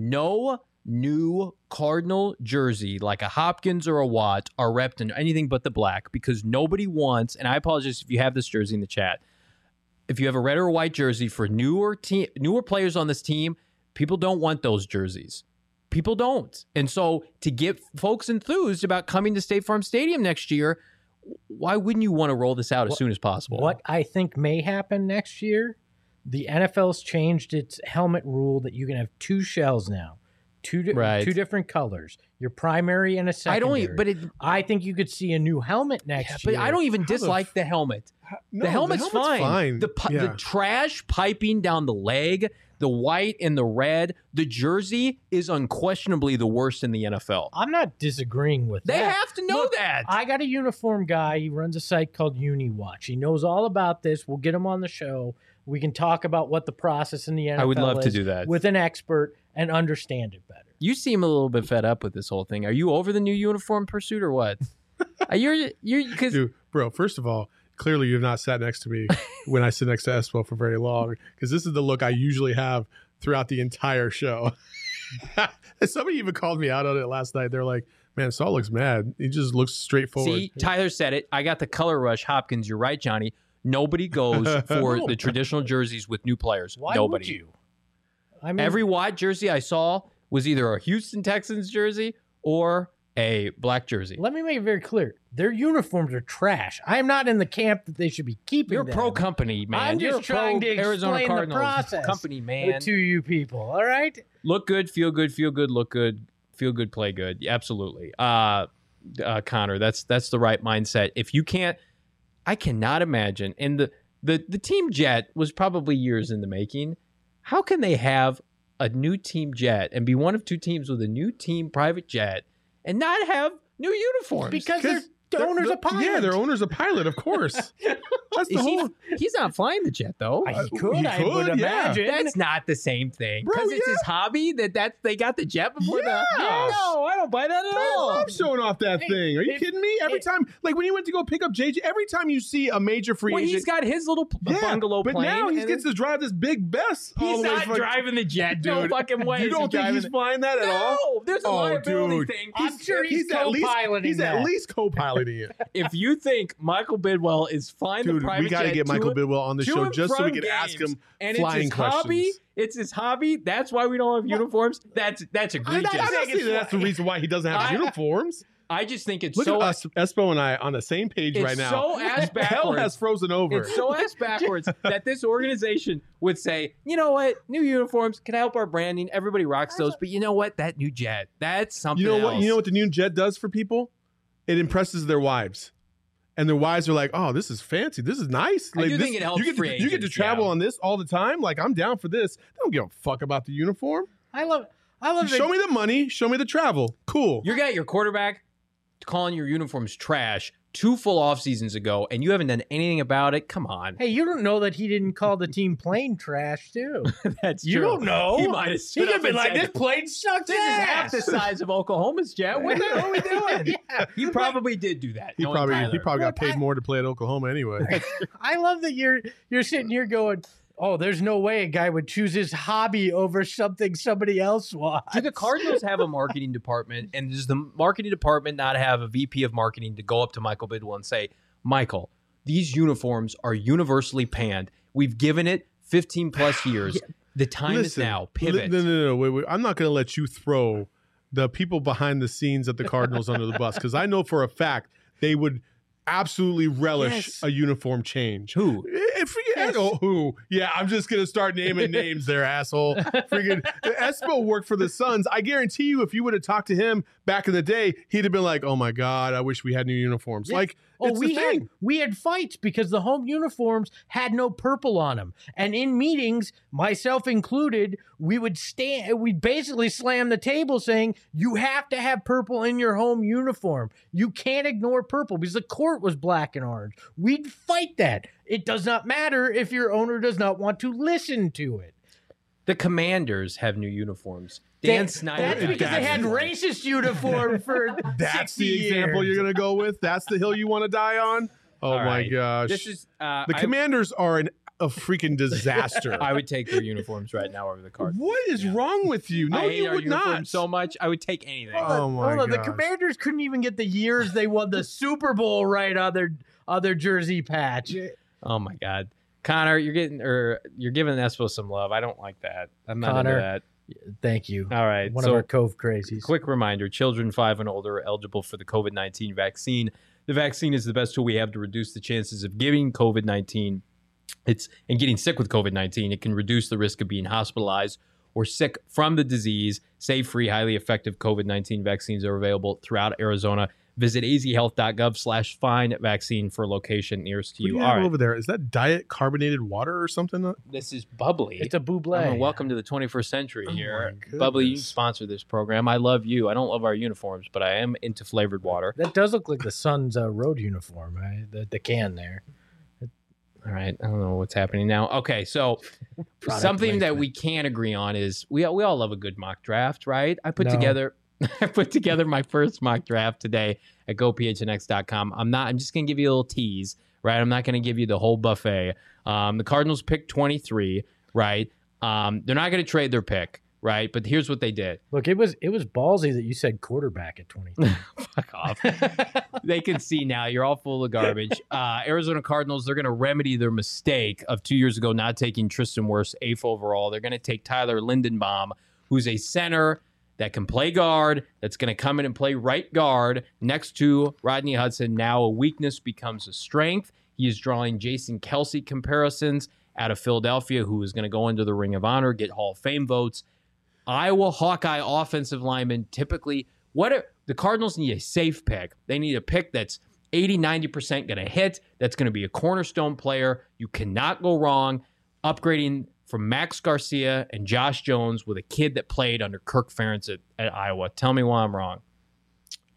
No new Cardinal jersey, like a Hopkins or a Watt, are repped in anything but the black, because nobody wants, and I apologize if you have this jersey in the chat, if you have a red or white jersey for newer players on this team, people don't want those jerseys. People don't. And so to get folks enthused about coming to State Farm Stadium next year, why wouldn't you want to roll this out as soon as possible? What I think may happen next year, the NFL's changed its helmet rule that you can have 2 shells now. Two different colors. Your primary and a secondary. I think you could see a new helmet next year. But I don't even dislike the helmet. The helmet's fine. The trash piping down the leg, the white and the red, the jersey is unquestionably the worst in the NFL. I'm not disagreeing with that. They have to know that. I got a uniform guy. He runs a site called UniWatch. He knows all about this. We'll get him on the show. We can talk about what the process in the NFL is. I would love to do that with an expert and understand it better. You seem a little bit fed up with this whole thing. Are you over the new uniform pursuit or what? Dude, bro, first of all, clearly you have not sat next to me when I sit next to Espo for very long, because this is the look I usually have throughout the entire show. Somebody even called me out on it last night. They're like, man, Saul looks mad. He just looks straightforward. See, Tyler said it. I got the color rush. Hopkins, you're right, Johnny. Nobody goes for the traditional jerseys with new players. Why Nobody. Would you? I mean, every white jersey I saw was either a Houston Texans jersey or a black jersey. Let me make it very clear. Their uniforms are trash. I am not in the camp that they should be keeping You're them. pro company, man. I'm just trying to explain the process company, man. To you people, all right? Look good, feel good, look good, feel good, play good. Absolutely. Connor, that's the right mindset. If you can't, I cannot imagine. And the team jet was probably years in the making. How can they have a new team jet and be one of 2 teams with a new team private jet and not have new uniforms? Because The owner's a pilot. Yeah, their owner's a pilot, of course. That's the whole. He's not flying the jet though. I would imagine. That's not the same thing. Bro, Because it's his hobby they got the jet before Yes. No, I don't buy that at I all. love showing off that thing. Are you kidding me? Every time, like when he went to go pick up JJ, every time you see a major free Well, agent, he's got his little bungalow but plane. now he and gets to drive this big Bess. all He's the way not from- driving the jet. No Dude, fucking way. You is don't he think driving he's it. flying that at all? No, there's a Oh, liability dude. thing. I'm sure he's at least co-piloting he's that. at least co-piloting it. If you think Michael Bidwell is flying the Dude, private we got to jet get Michael Bidwell on the to show and just so we from can ask games, him and flying it's his hobby. questions. It's his hobby. That's why we don't have uniforms. That's I'm egregious. not saying that's the reason why he doesn't have uniforms. I just think it's Look so at us, Espo and I, on the same page it's right now. so ass Hell backwards. has frozen over. It's so ass backwards that this organization would say, you know what, new uniforms can help our branding. Everybody rocks those, but you know what, that new jet, that's something. You know what? else. You know what the new jet does for people? It impresses their wives, and their wives are like, "Oh, this is fancy. This is nice." I Like, do this, think it helps you get free to, you get to agents, travel yeah. on this all the time. Like, I'm down for this. They don't give a fuck about the uniform. I love Show me the money. Show me the travel. Cool. You got your quarterback calling your uniforms trash 2 full off seasons ago, and you haven't done anything about it. Come on, Hey, you don't know that he didn't call the team plane trash too. that's You true. don't know. He might have He stood could up be and like, said, "This plane sucks This is half the size of Oklahoma's jet. What the hell are we doing? Yeah. He probably did do that. He knowing probably Tyler. got Look, paid more to play at Oklahoma anyway. I love that you're sitting here going, "Oh, there's no way a guy would choose his hobby over something somebody else wants." Do the Cardinals have a marketing department, and does the marketing department not have a VP of marketing to go up to Michael Bidwell and say, Michael, these uniforms are universally panned. We've given it 15 plus years. The time is now. Pivot. No. Wait. I'm not going to let you throw the people behind the scenes at the Cardinals under the bus, because I know for a fact they would absolutely relish Yes. a uniform change. Who? Forget who. Yeah, I'm just going to start naming names there, asshole. Freaking Espo worked for the Suns. I guarantee you, if you would have talked to him back in the day, he'd have been like, "Oh my God, I wish we had new uniforms." Yeah. Like, Oh, it's the thing. we had fights because the home uniforms had no purple on them, and in meetings, myself included, we'd basically slam the table saying, "You have to have purple in your home uniform. You can't ignore purple because the court was black and orange." We'd fight that. It does not matter if your owner does not want to listen to it. The Commanders have new uniforms. Dan Snyder. That's because they had racist uniform for That's 60 the example years. you're going to go with. That's the hill you want to die on. Oh All my right. gosh. This is The Commanders are a freaking disaster. I would take their uniforms right now over the Cardinals. What is wrong with you? No, I hate you our would uniforms not. so much. I would take anything. Oh my Hold on, the gosh. Commanders couldn't even get the years they won the Super Bowl right on their jersey patch. Oh my God, Connor, you're giving Espo some love. I don't like that. I'm not Connor, into that. Thank you. All right. One so of our Cove crazies. quick reminder: children 5 and older are eligible for the COVID-19 vaccine. The vaccine is the best tool we have to reduce the chances of getting COVID-19. And getting sick with COVID-19. It can reduce the risk of being hospitalized or sick from the disease. Safe, free, highly effective COVID-19 vaccines are available throughout Arizona. Visit azhealth.gov/find vaccine for a location nearest to What do you. you All have right. over there? Is that diet carbonated water or something? This is Bubbly. It's a buble. I mean, welcome to the 21st century Oh here. my Bubbly, you goodness. sponsor this program. I love you. I don't love our uniforms, but I am into flavored water. That does look like the Suns' road uniform, right? The can there. All right. I don't know what's happening now. Okay. So Product something that placement. we can agree on is we all love a good mock draft, right? I put No. together my first mock draft today at gophnx.com. I'm just going to give you a little tease, right? I'm not going to give you the whole buffet. The Cardinals picked 23, right? They're not going to trade their pick, right? But here's what they did. Look, it was ballsy that you said quarterback at 20. Fuck off. They can see now. You're all full of garbage. Arizona Cardinals, they're going to remedy their mistake of 2 years ago not taking Tristan Wirfs 8th overall. They're going to take Tyler Lindenbaum, who's a center that can play guard, that's going to come in and play right guard next to Rodney Hudson. Now a weakness becomes a strength. He is drawing Jason Kelce comparisons out of Philadelphia, who is going to go into the Ring of Honor, get Hall of Fame votes. Iowa Hawkeye offensive linemen typically, the Cardinals need a safe pick. They need a pick that's 80-90% going to hit, that's going to be a cornerstone player. You cannot go wrong upgrading from Max Garcia and Josh Jones with a kid that played under Kirk Ferentz at Iowa. Tell me why I'm wrong.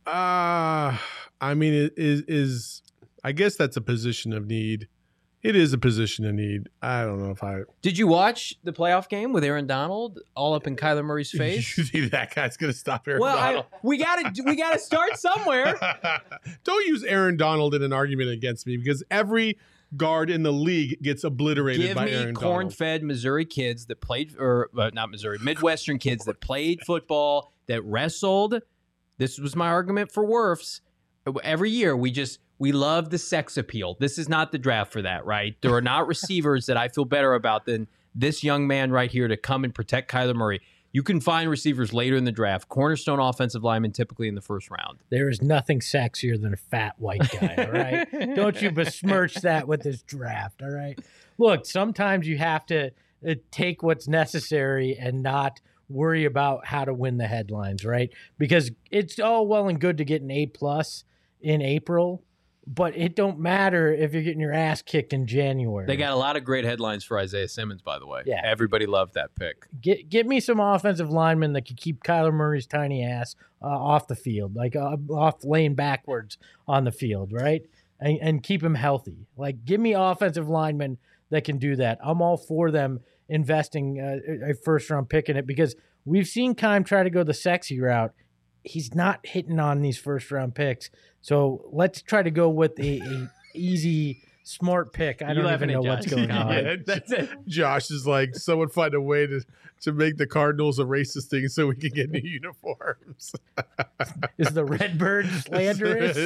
I mean, it is I guess that's a position of need. It is a position of need. I don't know if I... Did you watch the playoff game with Aaron Donald all up in Kyler Murray's face? You think that guy's going to stop Aaron Donald? We gotta start somewhere. Don't use Aaron Donald in an argument against me, because every guard in the league gets obliterated by Aaron Donald. Give me corn-fed Missouri kids that played, or not Missouri, Midwestern kids that played football, that wrestled. This was my argument for Wirfs. Every year, we love the sex appeal. This is not the draft for that, right? There are not receivers that I feel better about than this young man right here to come and protect Kyler Murray. You can find receivers later in the draft. Cornerstone offensive linemen typically in the first round. There is nothing sexier than a fat white guy, all right? Don't you besmirch that with this draft, all right? Look, sometimes you have to take what's necessary and not worry about how to win the headlines, right? Because it's all well and good to get an A+ in April, but it don't matter if you're getting your ass kicked in January. They got a lot of great headlines for Isaiah Simmons, by the way. Yeah. Everybody loved that pick. Get me some offensive linemen that can keep Kyler Murray's tiny ass off the field, like off laying backwards on the field, right? And keep him healthy. Like, give me offensive linemen that can do that. I'm all for them investing a first-round pick in it, because we've seen Keim try to go the sexy route. He's not hitting on these first-round picks. So let's try to go with a easy, smart pick. I don't even know what's going on. Yeah, that's it. Josh is like, someone find a way to make the Cardinals a racist thing so we can get new uniforms. Is the Redbird slanderous?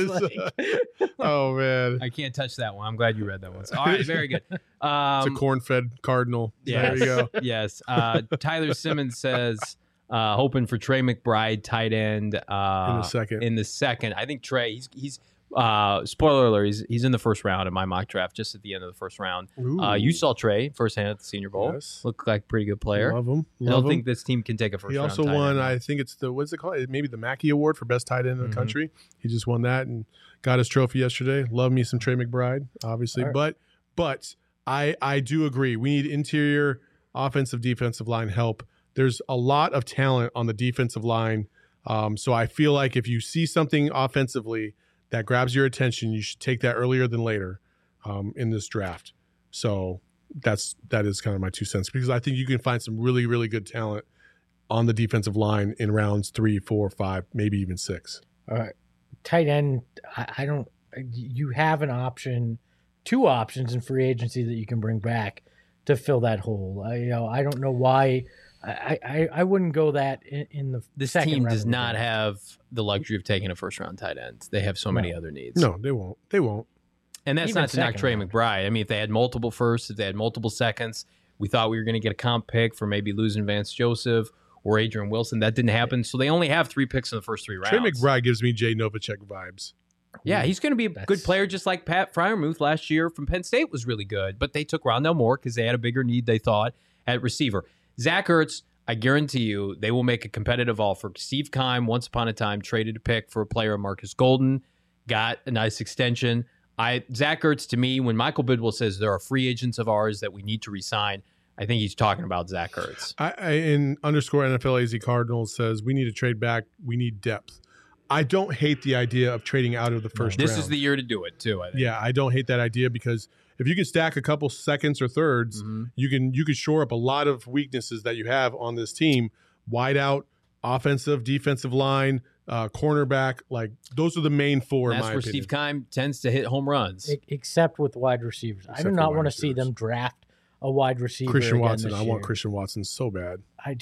Oh, man. I can't touch that one. I'm glad you read that one. All right, very good. It's a corn-fed Cardinal. Yes, there you go. Yes. Tyler Simmons says... hoping for Trey McBride, tight end. In the second. I think Trey, he's spoiler alert, he's in the first round in my mock draft, just at the end of the first round. You saw Trey firsthand at the Senior Bowl. Yes. Looked like a pretty good player. Love him. I don't think this team can take a first round. He also won, I think it's what's it called? Maybe the Mackey Award for best tight end in the country. He just won that and got his trophy yesterday. Love me some Trey McBride, obviously. Right. But I do agree. We need interior offensive, defensive line help. There's a lot of talent on the defensive line. So I feel like if you see something offensively that grabs your attention, you should take that earlier than later in this draft. So that is kind of my 2 cents, because I think you can find some really, really good talent on the defensive line in rounds 3, 4, 5, maybe even 6. All right. Tight end, you have an option, 2 options in free agency that you can bring back to fill that hole. I don't know why. I wouldn't go that in the this second team round. does not have the luxury of taking a first round tight end. They have so many other needs. No, they won't. And that's Even not to knock Trey round. McBride. I mean, if they had multiple firsts, if they had multiple seconds, we thought we were going to get a comp pick for maybe losing Vance Joseph or Adrian Wilson. That didn't happen. So they only have 3 picks in the first 3 rounds. Trey McBride gives me Jay Novacek vibes. Yeah, he's going to be a good player, just like Pat Freiermuth last year from Penn State was really good. But they took Rondell Moore because they had a bigger need, they thought, at receiver. Zach Ertz, I guarantee you they will make a competitive offer. Steve Keim, once upon a time, traded a pick for a player, Marcus Golden, got a nice extension. Zach Ertz, to me, when Michael Bidwell says there are free agents of ours that we need to re-sign, I think he's talking about Zach Ertz. In underscore NFL AZ Cardinals says, we need to trade back. We need depth. I don't hate the idea of trading out of the first round. This is the year to do it, too, I think. Yeah, I don't hate that idea, because if you can stack a couple seconds or thirds, you can shore up a lot of weaknesses that you have on this team. Wide out, offensive, defensive line, cornerback, like those are the main 4 in my opinion. That's where Steve Keim tends to hit home runs. Except with wide receivers. I do not want to see them draft a wide receiver. Christian Watson. I year. want Christian Watson so bad.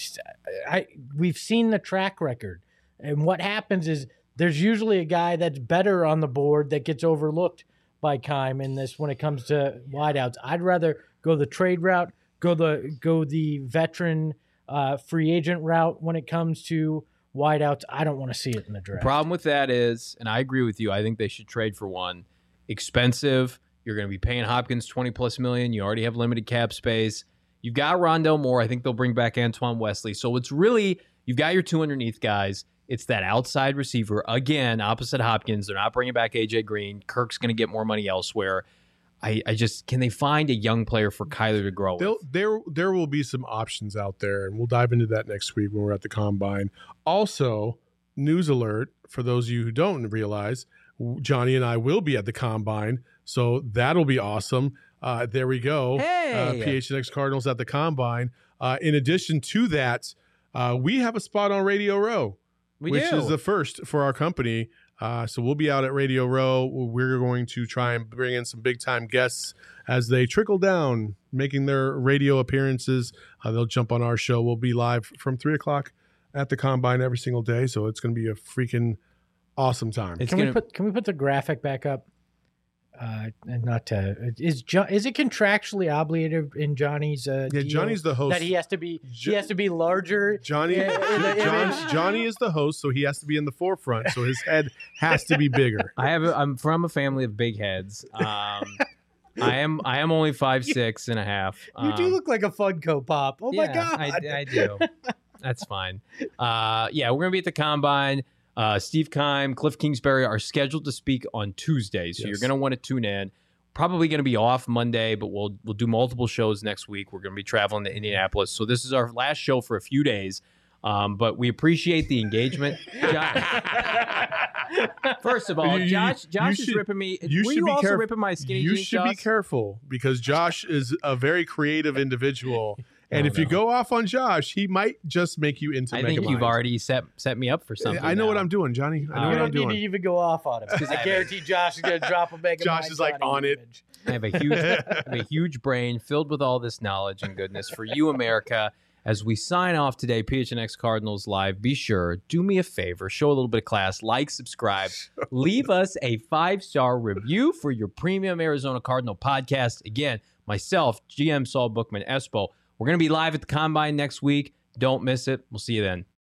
We've seen the track record. And what happens is there's usually a guy that's better on the board that gets overlooked by Keim in this when it comes to wideouts. I'd rather go the trade route, go the veteran free agent route when it comes to wideouts. I don't want to see it in the draft. The problem with that is, and I agree with you, I think they should trade for one. Expensive. You're going to be paying Hopkins $20+ million. You already have limited cap space. You've got Rondell Moore. I think they'll bring back Antoine Wesley. So it's really, you've got your 2 underneath guys. It's that outside receiver, again, opposite Hopkins. They're not bringing back A.J. Green. Kirk's going to get more money elsewhere. I just, can they find a young player for Kyler to grow with? There will be some options out there, and we'll dive into that next week when we're at the Combine. Also, news alert for those of you who don't realize, Johnny and I will be at the Combine, so that'll be awesome. There we go. Hey! PHNX Cardinals at the Combine. In addition to that, we have a spot on Radio Row, which is the first for our company. So we'll be out at Radio Row. We're going to try and bring in some big-time guests as they trickle down, making their radio appearances. They'll jump on our show. We'll be live from 3 o'clock at the Combine every single day, so it's going to be a freaking awesome time. Can we put the graphic back up? And not to is it contractually obligated in Johnny's deal Johnny's the host that he has to be larger. Johnny is the host, so he has to be in the forefront, so his head has to be bigger. I'm from a family of big heads. I am only 5'6" and a half. You do look like a Funko Pop. Oh my God. I do. That's fine. We're gonna be at the Combine. Steve Keim, Cliff Kingsbury are scheduled to speak on Tuesday, so you're going to want to tune in. Probably going to be off Monday, but we'll do multiple shows next week. We're going to be traveling to Indianapolis, so this is our last show for a few days. But we appreciate the engagement. First of all, Josh is ripping me. Were you also ripping my skinny jeans? You should be careful because Josh is a very creative individual. And if you go off on Josh, he might just make you into Megamind. I think you've already set me up for something. I know what I'm doing, Johnny. I know what I'm doing. You don't need to even go off on him because I guarantee Josh is going to drop a Megamind. Josh is like on it. I have a huge brain filled with all this knowledge and goodness for you, America. As we sign off today, PHNX Cardinals Live, be sure, do me a favor, show a little bit of class, like, subscribe, leave us a 5-star review for your premium Arizona Cardinal podcast. Again, myself, GM Saul Bookman, Espo. We're going to be live at the Combine next week. Don't miss it. We'll see you then.